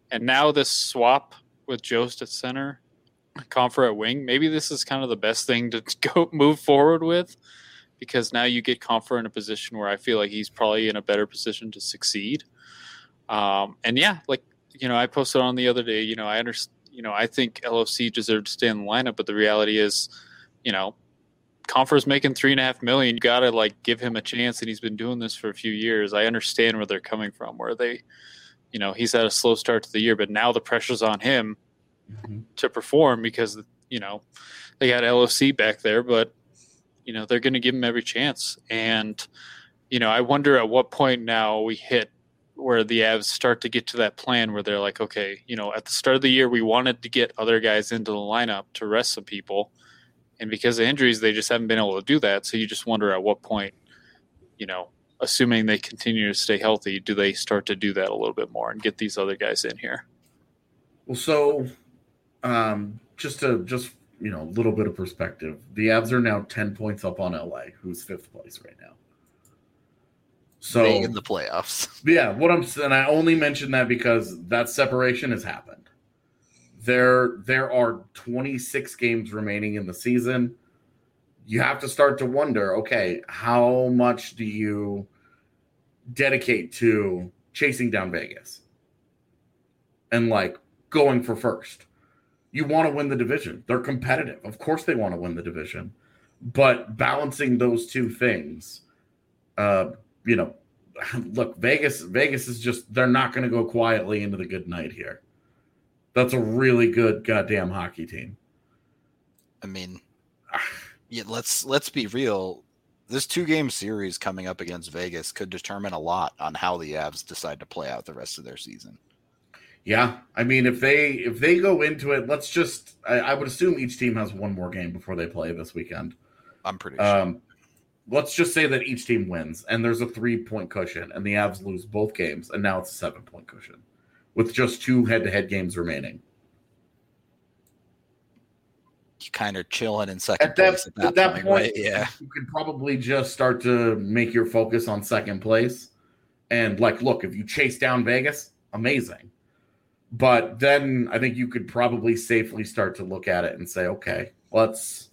And now this swap with Jost at center, Compher at wing, maybe this is kind of the best thing to go move forward with, because now you get Compher in a position where I feel like he's probably in a better position to succeed. Um, and yeah, like, you know, I posted on the other day, you know, I understand, you know, I think L O C deserved to stay in the lineup, but the reality is, you know, Compher's making three and a half million. You got to like give him a chance. And he's been doing this for a few years. I understand where they're coming from, where they, you know, he's had a slow start to the year, but now the pressure's on him mm-hmm. to perform because, you know, they got L O C back there, but, you know, they're going to give him every chance. And, you know, I wonder at what point now we hit where the Avs start to get to that plan where they're like, okay, you know, at the start of the year, we wanted to get other guys into the lineup to rest some people. And because of injuries, they just haven't been able to do that. So you just wonder at what point, you know, assuming they continue to stay healthy, do they start to do that a little bit more and get these other guys in here? Well, so um, just to just, you know, a little bit of perspective, the Avs are now ten points up on L A, who's fifth place right now. So being in the playoffs. Yeah, what I'm saying, I only mention that because that separation has happened. There, there are twenty-six games remaining in the season. You have to start to wonder, okay, how much do you dedicate to chasing down Vegas and like going for first? You want to win the division. They're competitive. Of course they want to win the division. But balancing those two things, uh, you know, look, Vegas, Vegas is just, they're not going to go quietly into the good night here. That's a really good goddamn hockey team. I mean, yeah, let's let's be real. This two-game series coming up against Vegas could determine a lot on how the Avs decide to play out the rest of their season. Yeah, I mean, if they if they go into it, let's just I, I would assume each team has one more game before they play this weekend. I'm pretty sure. Um, let's just say that each team wins, and there's a three-point cushion, and the Avs lose both games, and now it's a seven-point cushion with just two head-to-head games remaining. You kind of chilling in second at that, place at that, at that point, point, right? Yeah. You could probably just start to make your focus on second place. And, like, look, if you chase down Vegas, amazing. But then I think you could probably safely start to look at it and say, okay, let's,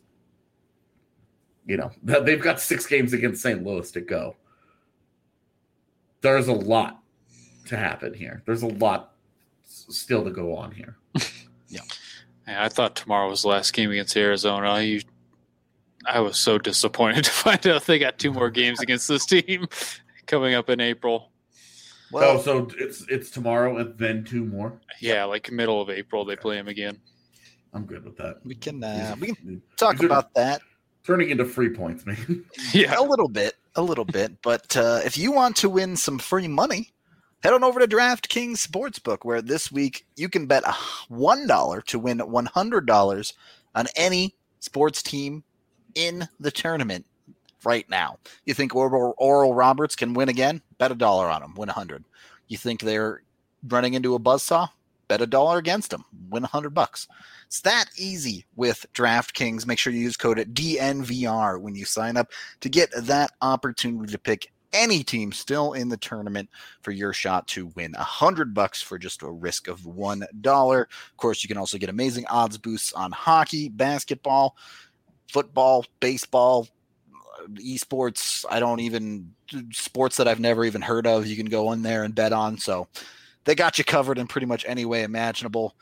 you know, they've got six games against Saint Louis to go. There's a lot to happen here. There's a lot still to go on here. Yeah. I thought tomorrow was the last game against Arizona. I, I was so disappointed to find out they got two more games against this team coming up in April. Well, oh, so it's it's tomorrow and then two more? Yeah, like middle of April they play them again. I'm good with that. We can uh, we can talk about that. Turning into free points, man. Yeah, a little bit, a little bit. But uh, if you want to win some free money, head on over to DraftKings Sportsbook, where this week you can bet one dollar to win one hundred dollars on any sports team in the tournament right now. You think Oral, Oral Roberts can win again? Bet a dollar on him, win one hundred. You think they're running into a buzzsaw? Bet a dollar against them, win one hundred bucks. It's that easy with DraftKings. Make sure you use code D N V R when you sign up to get that opportunity to pick any team still in the tournament for your shot to win a hundred bucks for just a risk of one dollar. Of course, you can also get amazing odds boosts on hockey, basketball, football, baseball, esports. I don't even sports that I've never even heard of. You can go in there and bet on. So they got you covered in pretty much any way imaginable.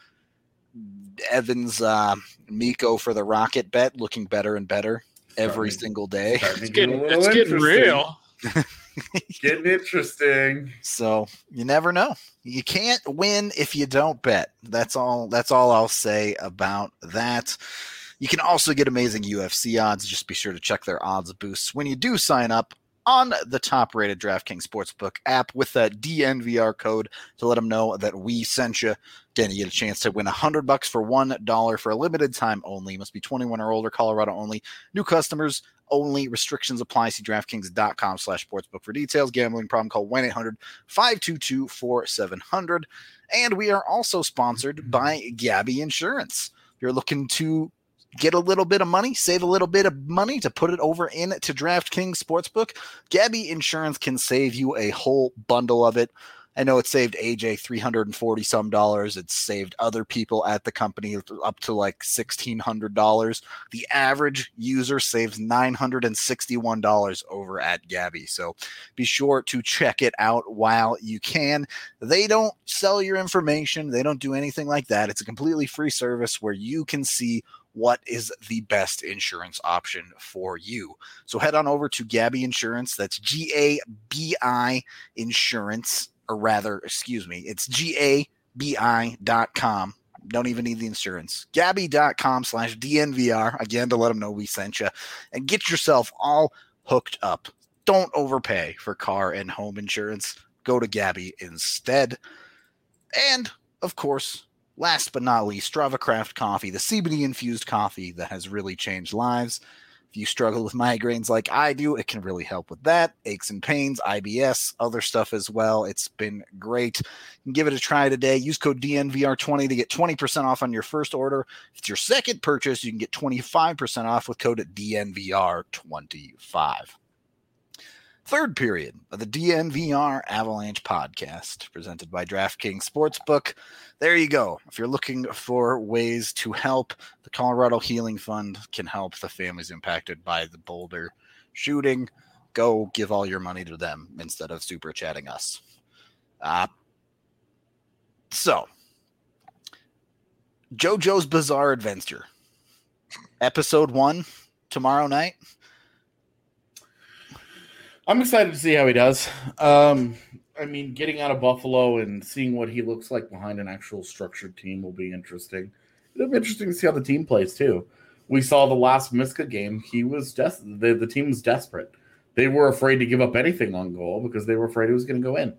Evans, uh, Miko for the Rocket bet, looking better and better every starting, single day. It's getting, it's getting real. Getting interesting. So you never know. You can't win if you don't bet. That's all. That's all I'll say about that. You can also get amazing U F C odds. Just be sure to check their odds boosts when you do sign up on the top-rated DraftKings Sportsbook app with that D N V R code to let them know that we sent you. Then you get a chance to win one hundred bucks for one dollar for a limited time only. You must be twenty-one or older, Colorado only. New customers only. Restrictions apply. See DraftKings.com slash sportsbook for details. Gambling problem, call one eight hundred five two two four seven zero zero. And we are also sponsored by Gabby Insurance. If you're looking to get a little bit of money, save a little bit of money to put it over into DraftKings Sportsbook, Gabby Insurance can save you a whole bundle of it. I know it saved A J three hundred forty some dollars. It's saved other people at the company up to like sixteen hundred dollars. The average user saves nine hundred sixty-one dollars over at Gabby. So be sure to check it out while you can. They don't sell your information. They don't do anything like that. It's a completely free service where you can see what is the best insurance option for you. So head on over to Gabby Insurance. That's G A B I Insurance, or rather, excuse me, it's G A B I dot com. Don't even need the insurance. Gabby dot com slash D N V R, again, to let them know we sent you. And get yourself all hooked up. Don't overpay for car and home insurance. Go to Gabby instead. And, of course, last but not least, Strava Craft Coffee, the C B D-infused coffee that has really changed lives. If you struggle with migraines like I do, it can really help with that. Aches and pains, I B S, other stuff as well. It's been great. You can give it a try today. Use code D N V R twenty to get twenty percent off on your first order. If it's your second purchase, you can get twenty-five percent off with code D N V R twenty-five. Third period of the D N V R Avalanche podcast presented by DraftKings Sportsbook. There you go. If you're looking for ways to help, the Colorado Healing Fund can help the families impacted by the Boulder shooting. Go give all your money to them instead of super chatting us. Uh, so, JoJo's Bizarre Adventure, episode one, tomorrow night. I'm excited to see how he does. Um, I mean, getting out of Buffalo and seeing what he looks like behind an actual structured team will be interesting. It'll be interesting to see how the team plays, too. We saw the last Miska game. He was des- the, the team was desperate. They were afraid to give up anything on goal because they were afraid it was going to go in.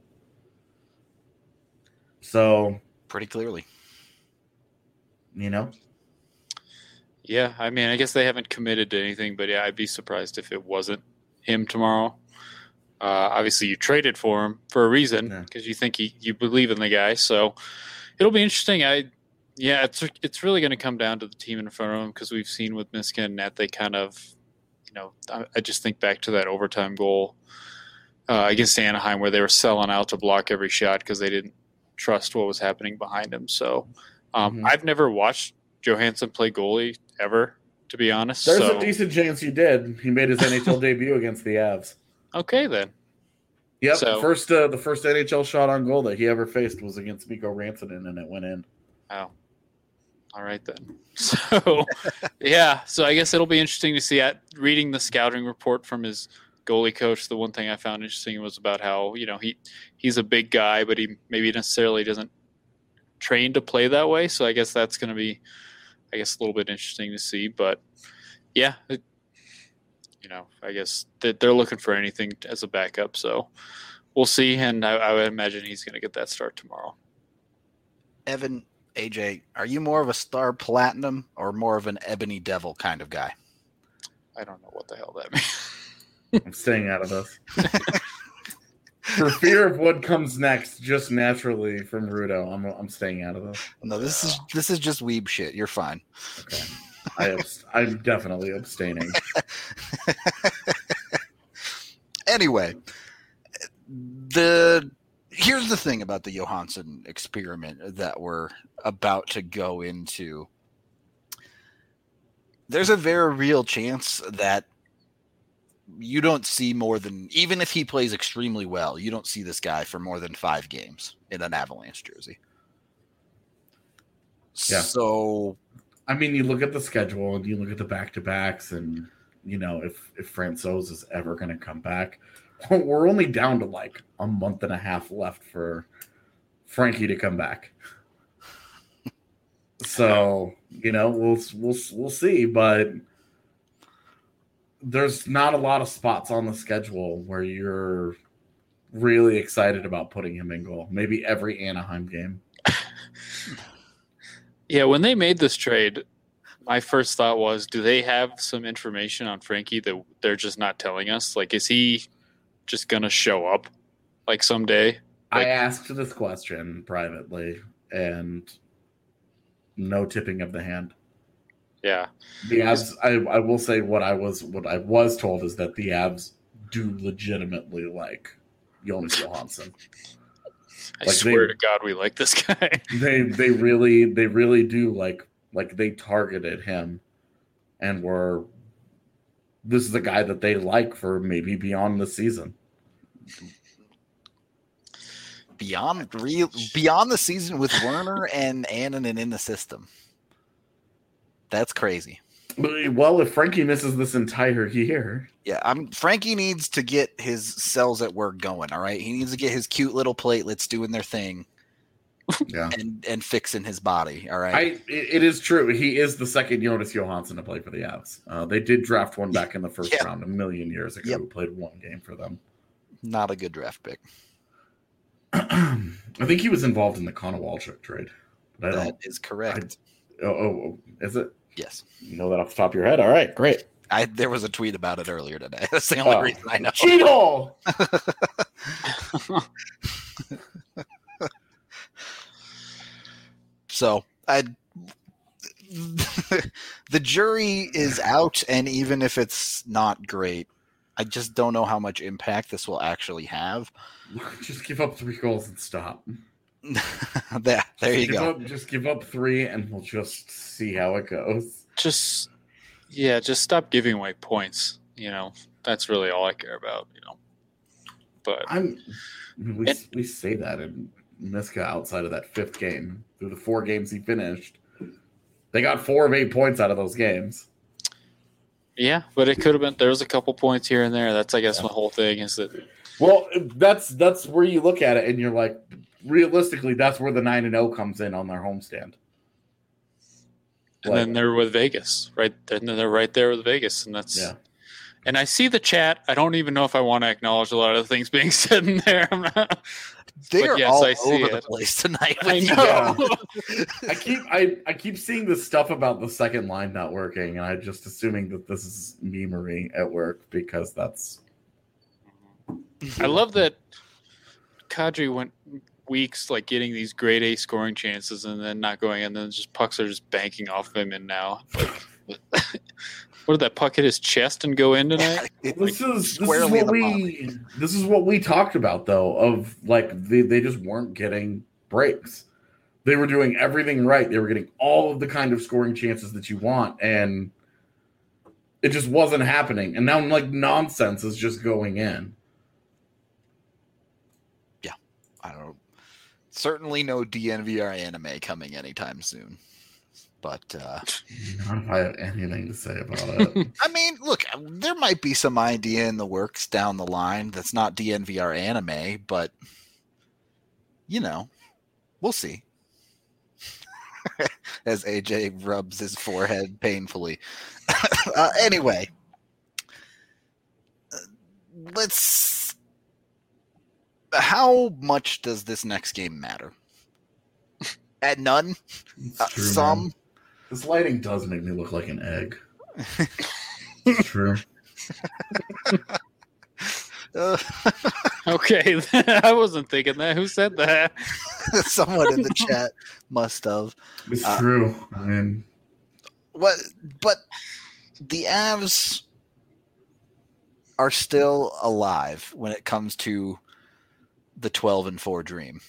So, pretty clearly. You know? Yeah, I mean, I guess they haven't committed to anything, but yeah, I'd be surprised if it wasn't him tomorrow. Uh, obviously, you traded for him for a reason because yeah. you think he, you believe in the guy. So it'll be interesting. I, yeah, it's it's really going to come down to the team in front of him because we've seen with Miska and Net, they kind of, you know, I, I just think back to that overtime goal uh, against Anaheim where they were selling out to block every shot because they didn't trust what was happening behind him. So um, mm-hmm. I've never watched Johansson play goalie ever, to be honest. There's so. a decent chance he did. He made his N H L debut against the Avs. Okay, then. Yep, so, first uh, the first N H L shot on goal that he ever faced was against Mikko Rantanen, and it went in. Oh, all right then. So, yeah, so I guess it'll be interesting to see. At reading the scouting report from his goalie coach, the one thing I found interesting was about how you know he he's a big guy, but he maybe necessarily doesn't train to play that way. So I guess that's going to be, I guess, a little bit interesting to see. But yeah. It, You know, I guess that they're looking for anything as a backup, so we'll see. And I, I would imagine he's going to get that start tomorrow. Evan, A J, are you more of a Star Platinum or more of an Ebony Devil kind of guy? I don't know what the hell that means. I'm staying out of this. For fear of what comes next, just naturally from Rudo, I'm I'm staying out of this. No, this is this is just weeb shit. You're fine. Okay. I abst- I'm definitely abstaining. Anyway, the here's the thing about the Johansson experiment that we're about to go into. There's a very real chance that you don't see more than, even if he plays extremely well, you don't see this guy for more than five games in an Avalanche jersey. Yeah. So... I mean, you look at the schedule and you look at the back-to-backs and, you know, if, if Francouz is ever going to come back, we're only down to like a month and a half left for Frankie to come back. So, you know, we'll, we'll, we'll see, but there's not a lot of spots on the schedule where you're really excited about putting him in goal. Maybe every Anaheim game. Yeah, when they made this trade, my first thought was, do they have some information on Frankie that they're just not telling us? Like, is he just going to show up, like, someday? Like, I asked this question privately, and no tipping of the hand. Yeah. The Avs, I, I will say what I was what I was told is that the Avs do legitimately like Jonas Johansson. I Like swear they- to God, we like this guy. They they really they really do like like they targeted him, and were this is a guy that they like for maybe beyond the season. Beyond real, beyond the season with Werner and Annunen in the system. That's crazy. Well, if Frankie misses this entire year, Yeah, I'm Frankie needs to get his cells at work going. All right, he needs to get his cute little platelets doing their thing yeah, and and fixing his body. All right. I it, it is true. He is the second Jonas Johansson to play for the Avs. Uh, they did draft one back in the first Yeah. round a million years ago. Yep. Who played one game for them. Not a good draft pick. I think he was involved in the Connor Walchuk trade. But I That don't. is correct. Oh, oh, oh, is it? Yes. You know that off the top of your head? All right, great. I there was a tweet about it earlier today. That's the only Oh. reason I know. Cheat hole! So I the jury is out, and even if it's not great, I just don't know how much impact this will actually have. Just give up three goals and stop. there, there you give go. Up, just give up three, and we'll just see how it goes. Just, yeah, just stop giving away points. You know, that's really all I care about. You know, but I'm. We And- we say that, and Miska outside of that fifth game, through the four games he finished, they got four of eight points out of those games. yeah, but it could have been. There was a couple points here and there. That's, I guess, Yeah. the whole thing is that. Well, that's that's where you look at it, and you're like, realistically, that's where the nine and zero comes in on their homestand. And Like- then they're with Vegas, right? And then they're right there with Vegas, and that's. Yeah. And I see the chat. I don't even know if I want to acknowledge a lot of the things being said in there. I'm not, They but are yes, all I see over the it. place tonight. I with you. know. I keep I, I keep seeing this stuff about the second line not working, and I'm just assuming that this is memery at work because that's I love that Kadri went weeks like getting these grade A scoring chances and then not going, and then just pucks are just banking off him. And now, like, what did that puck hit his chest and go in tonight? It- this is this is squarely in what the we this is what we talked about though, of like they, they just weren't getting breaks. They were doing everything right. They were getting all of the kind of scoring chances that you want, and it just wasn't happening. And now like nonsense is just going in. I don't know. Certainly no D N V R anime coming anytime soon. But uh, Not if I have anything to say about it. I mean, look, there might be some idea in the works down the line that's not D N V R anime, but you know, we'll see. As A J rubs his forehead painfully. uh, anyway, uh, let's. How much does this next game matter? At none? It's Uh, true, some? man. This lighting does make me look like an egg. It's true. Uh, Okay, I wasn't thinking that. Who said that? someone in the chat must have. It's Uh, true. I mean, What? But the Avs are still alive when it comes to the twelve and four dream.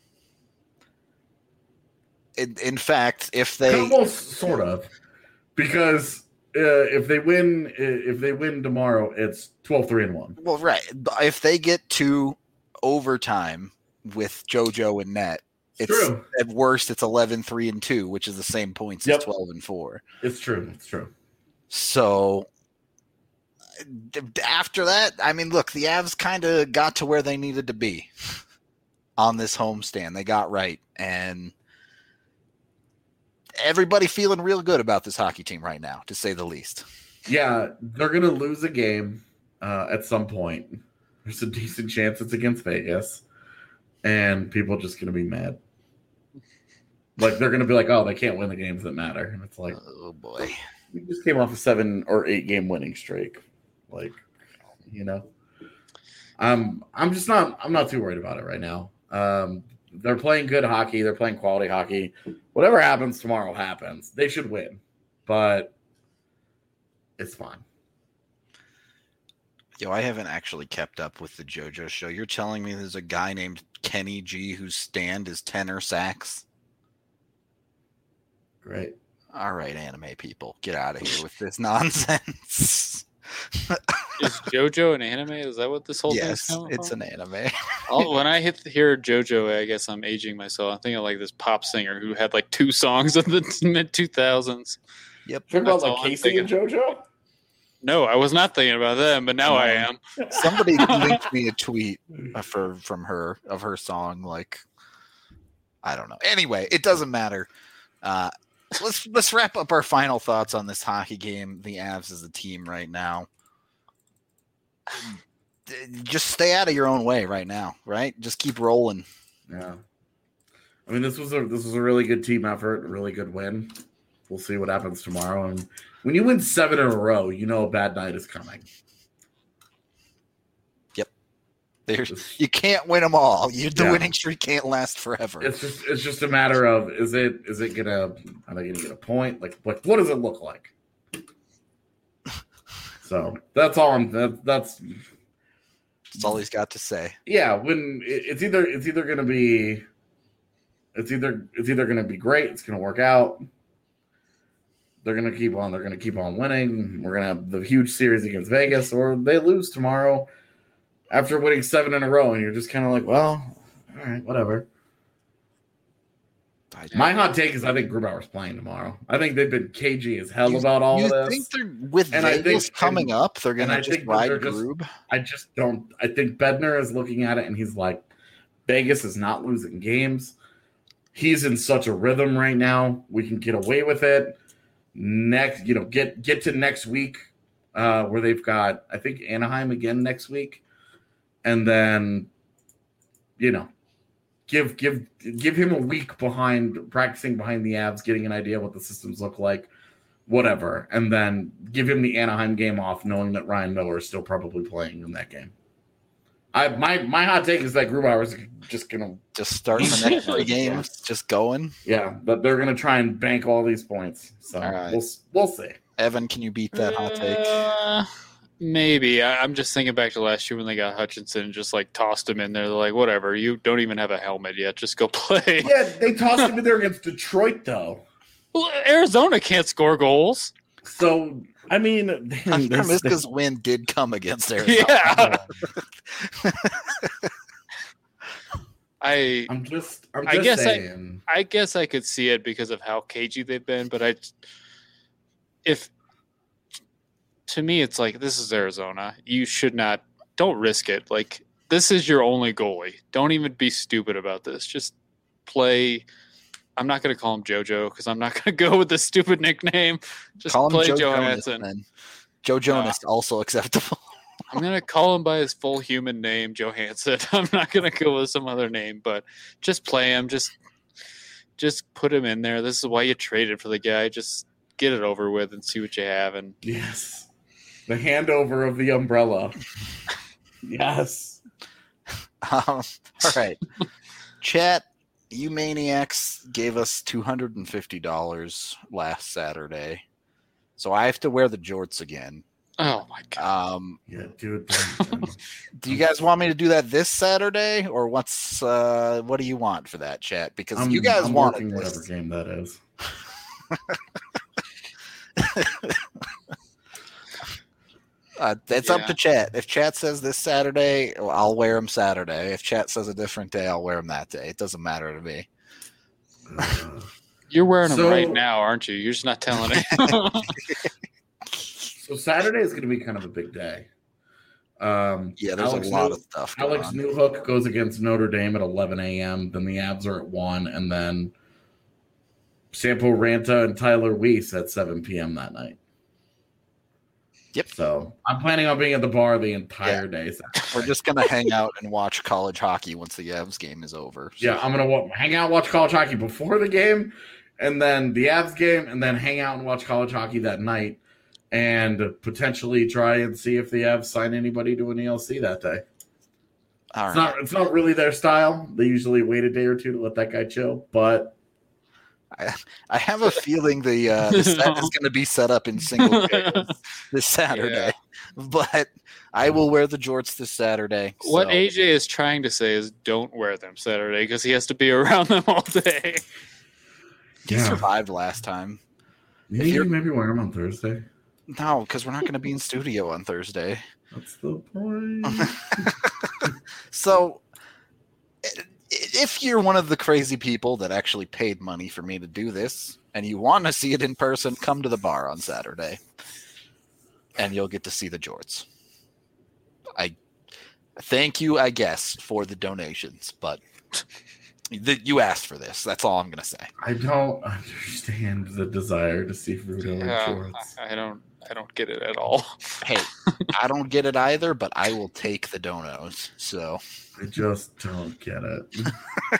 In, in fact, if they almost sort of, because uh, if they win, if they win tomorrow, it's twelve three and one. well, right, but if they get to overtime with JoJo and Net, It's it's true. at worst it's eleven three and two, which is the same points Yep. as twelve and four. It's true. It's true. So d- after that, I mean, look, the Avs kind of got to where they needed to be on this homestand. They got right, and everybody feeling real good about this hockey team right now, to say the least. Yeah, they're gonna lose a game uh, at some point. There's a decent chance it's against Vegas, and people are just gonna be mad. Like they're gonna be like, "Oh, they can't win the games that matter," and it's like, Oh boy. we just came off a seven or eight game winning streak. Like, you know, I'm I'm just not I'm not too worried about it right now. Um, they're playing good hockey. They're playing quality hockey. Whatever happens tomorrow happens. They should win, but it's fine. Yo, I haven't actually kept up with the JoJo show. You're telling me there's a guy named Kenny G whose stand is tenor sax? Great. All right, anime people, get out of here with this nonsense. Is JoJo an anime? Is that what this whole Yes, thing's coming it's from? an anime. I'll- when I hit the, hear JoJo, I guess I'm aging myself. I'm thinking of like this pop singer who had like two songs in the mid two thousands. Yep. Talking about That's like all I'm Casey and JoJo? No, I was not thinking about them, but now I am. Somebody linked me a tweet uh, for from her of her song. Like, I don't know. Anyway, it doesn't matter. Uh, let's let's wrap up our final thoughts on this hockey game. The Avs as a team right now. Just stay out of your own way right now, right? Just keep rolling. Yeah. I mean, this was a this was a really good team effort, a really good win. We'll see what happens tomorrow. And when you win seven in a row, you know a bad night is coming. There's, you can't win them all. You, the Yeah. winning streak can't last forever. It's just it's just a matter of is it is it gonna are they gonna get a point? Like like what does it look like? So that's all I'm that, that's That's all he's got to say. yeah, when it, it's either it's either gonna be it's either it's either gonna be great, it's gonna work out. They're gonna keep on, they're gonna keep on winning. We're gonna have the huge series against Vegas, or they lose tomorrow after winning seven in a row, and you're just kind of like, well, all right, whatever. My hot take is I think Grubauer's playing tomorrow. I think they've been cagey as hell You- about all you of this. think they're with And I Vegas think- coming and- up? They're and gonna I just think that ride they're just- Grub. I just don't. I think Bednar is looking at it and he's like, Vegas is not losing games. He's in such a rhythm right now. We can get away with it. Next, you know, get get to next week uh, where they've got, I think, Anaheim again next week, and then, you know, give give give him a week behind practicing behind the Avs, getting an idea what the systems look like, whatever, and then give him the Anaheim game off, knowing that Ryan Miller is still probably playing in that game. I my my hot take is that Grubauer is just gonna Just start the next three games, just going. yeah, but they're gonna try and bank all these points. So All right. we'll we'll see. Evan, can you beat that hot take? Uh, maybe. I, I'm just thinking back to last year when they got Hutchinson and just like tossed him in there. They're like, whatever, you don't even have a helmet yet. Just go play. Yeah, they tossed him in there against Detroit though. Well, Arizona can't score goals. So I mean, there's- Miska's win did come against Arizona. Yeah. I I'm just I'm I just guess I- saying. I guess I could see it because of how cagey they've been, but I, if to me, it's like this is Arizona. You should not. Don't risk it. Like this is your only goalie. Don't even be stupid about this. Just play. I'm not going to call him JoJo because I'm not going to go with the stupid nickname. Just Call him play Joe Johansson. Jonas. Then. Joe Jonas also acceptable. I'm going to call him by his full human name, Johansson. I'm not going to go with some other name, but just play him. Just, just put him in there. This is why you traded for the guy. Just get it over with and see what you have. And Yes, the handover of the umbrella. Yes. Um, all right. Chat, you maniacs gave us two hundred fifty dollars last Saturday. So I have to wear the jorts again. oh my god, Um, Um, Yeah, dude. do you guys want me to do that this Saturday, or what's uh, what do you want for that, chat? Because I'm, you guys I'm want working this. whatever game that is. Uh, it's up Yeah. to chat. If chat says this Saturday, well, I'll wear them Saturday. If chat says a different day, I'll wear them that day. It doesn't matter to me. Uh, you're wearing them so- right now, aren't you? You're just not telling it. so Saturday is going to be kind of a big day. Um, Yeah, there's Alex a lot New- of stuff going Alex on. Newhook goes against Notre Dame at eleven a.m. Then the Avs are at one, and then Sampo Ranta and Tyler Weiss at seven p.m. that night. Yep. So I'm planning on being at the bar the entire day. Saturday. We're just gonna hang out and watch college hockey once the Avs game is over. So- Yeah, I'm gonna wa- hang out, watch college hockey before the game, and then the Avs game, and then hang out and watch college hockey that night, and potentially try and see if the Avs sign anybody to an E L C that day. All It's right. not it's not really their style. They usually wait a day or two to let that guy chill, but I have a feeling the, uh, the set is going to be set up in single pairs this Saturday. but I will wear the jorts this Saturday. What so- A J is trying to say is don't wear them Saturday because he has to be around them all day. He Yeah. survived last time. Maybe you're- maybe wear them on Thursday. No, because we're not going to be in studio on Thursday. That's the point. So, i- if you're one of the crazy people that actually paid money for me to do this, and you want to see it in person, come to the bar on Saturday, and you'll get to see the jorts. I thank you, I guess, for the donations, but th- you asked for this. That's all I'm going to say. I don't understand the desire to see Fruto in Yeah, shorts. I, I don't. I don't get it at all. Hey, I don't get it either, but I will take the donos. So I just don't get it.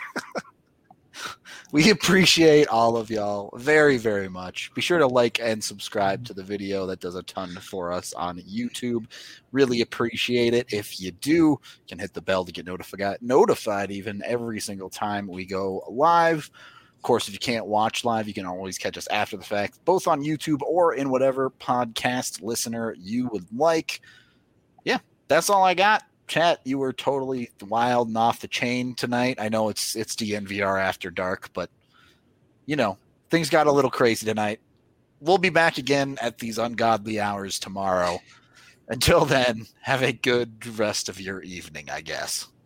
we appreciate all of y'all very, very much. Be sure to like and subscribe to the video. That does a ton for us on YouTube. Really appreciate it. If you do, you can hit the bell to get notified, notified even every single time we go live. Of course, if you can't watch live, you can always catch us after the fact, both on YouTube or in whatever podcast listener you would like. Yeah, that's all I got. Chat, you were totally wild and off the chain tonight. I know it's it's D N V R after dark, but you know, things got a little crazy tonight. We'll be back again at these ungodly hours tomorrow. Until then, have a good rest of your evening, I guess.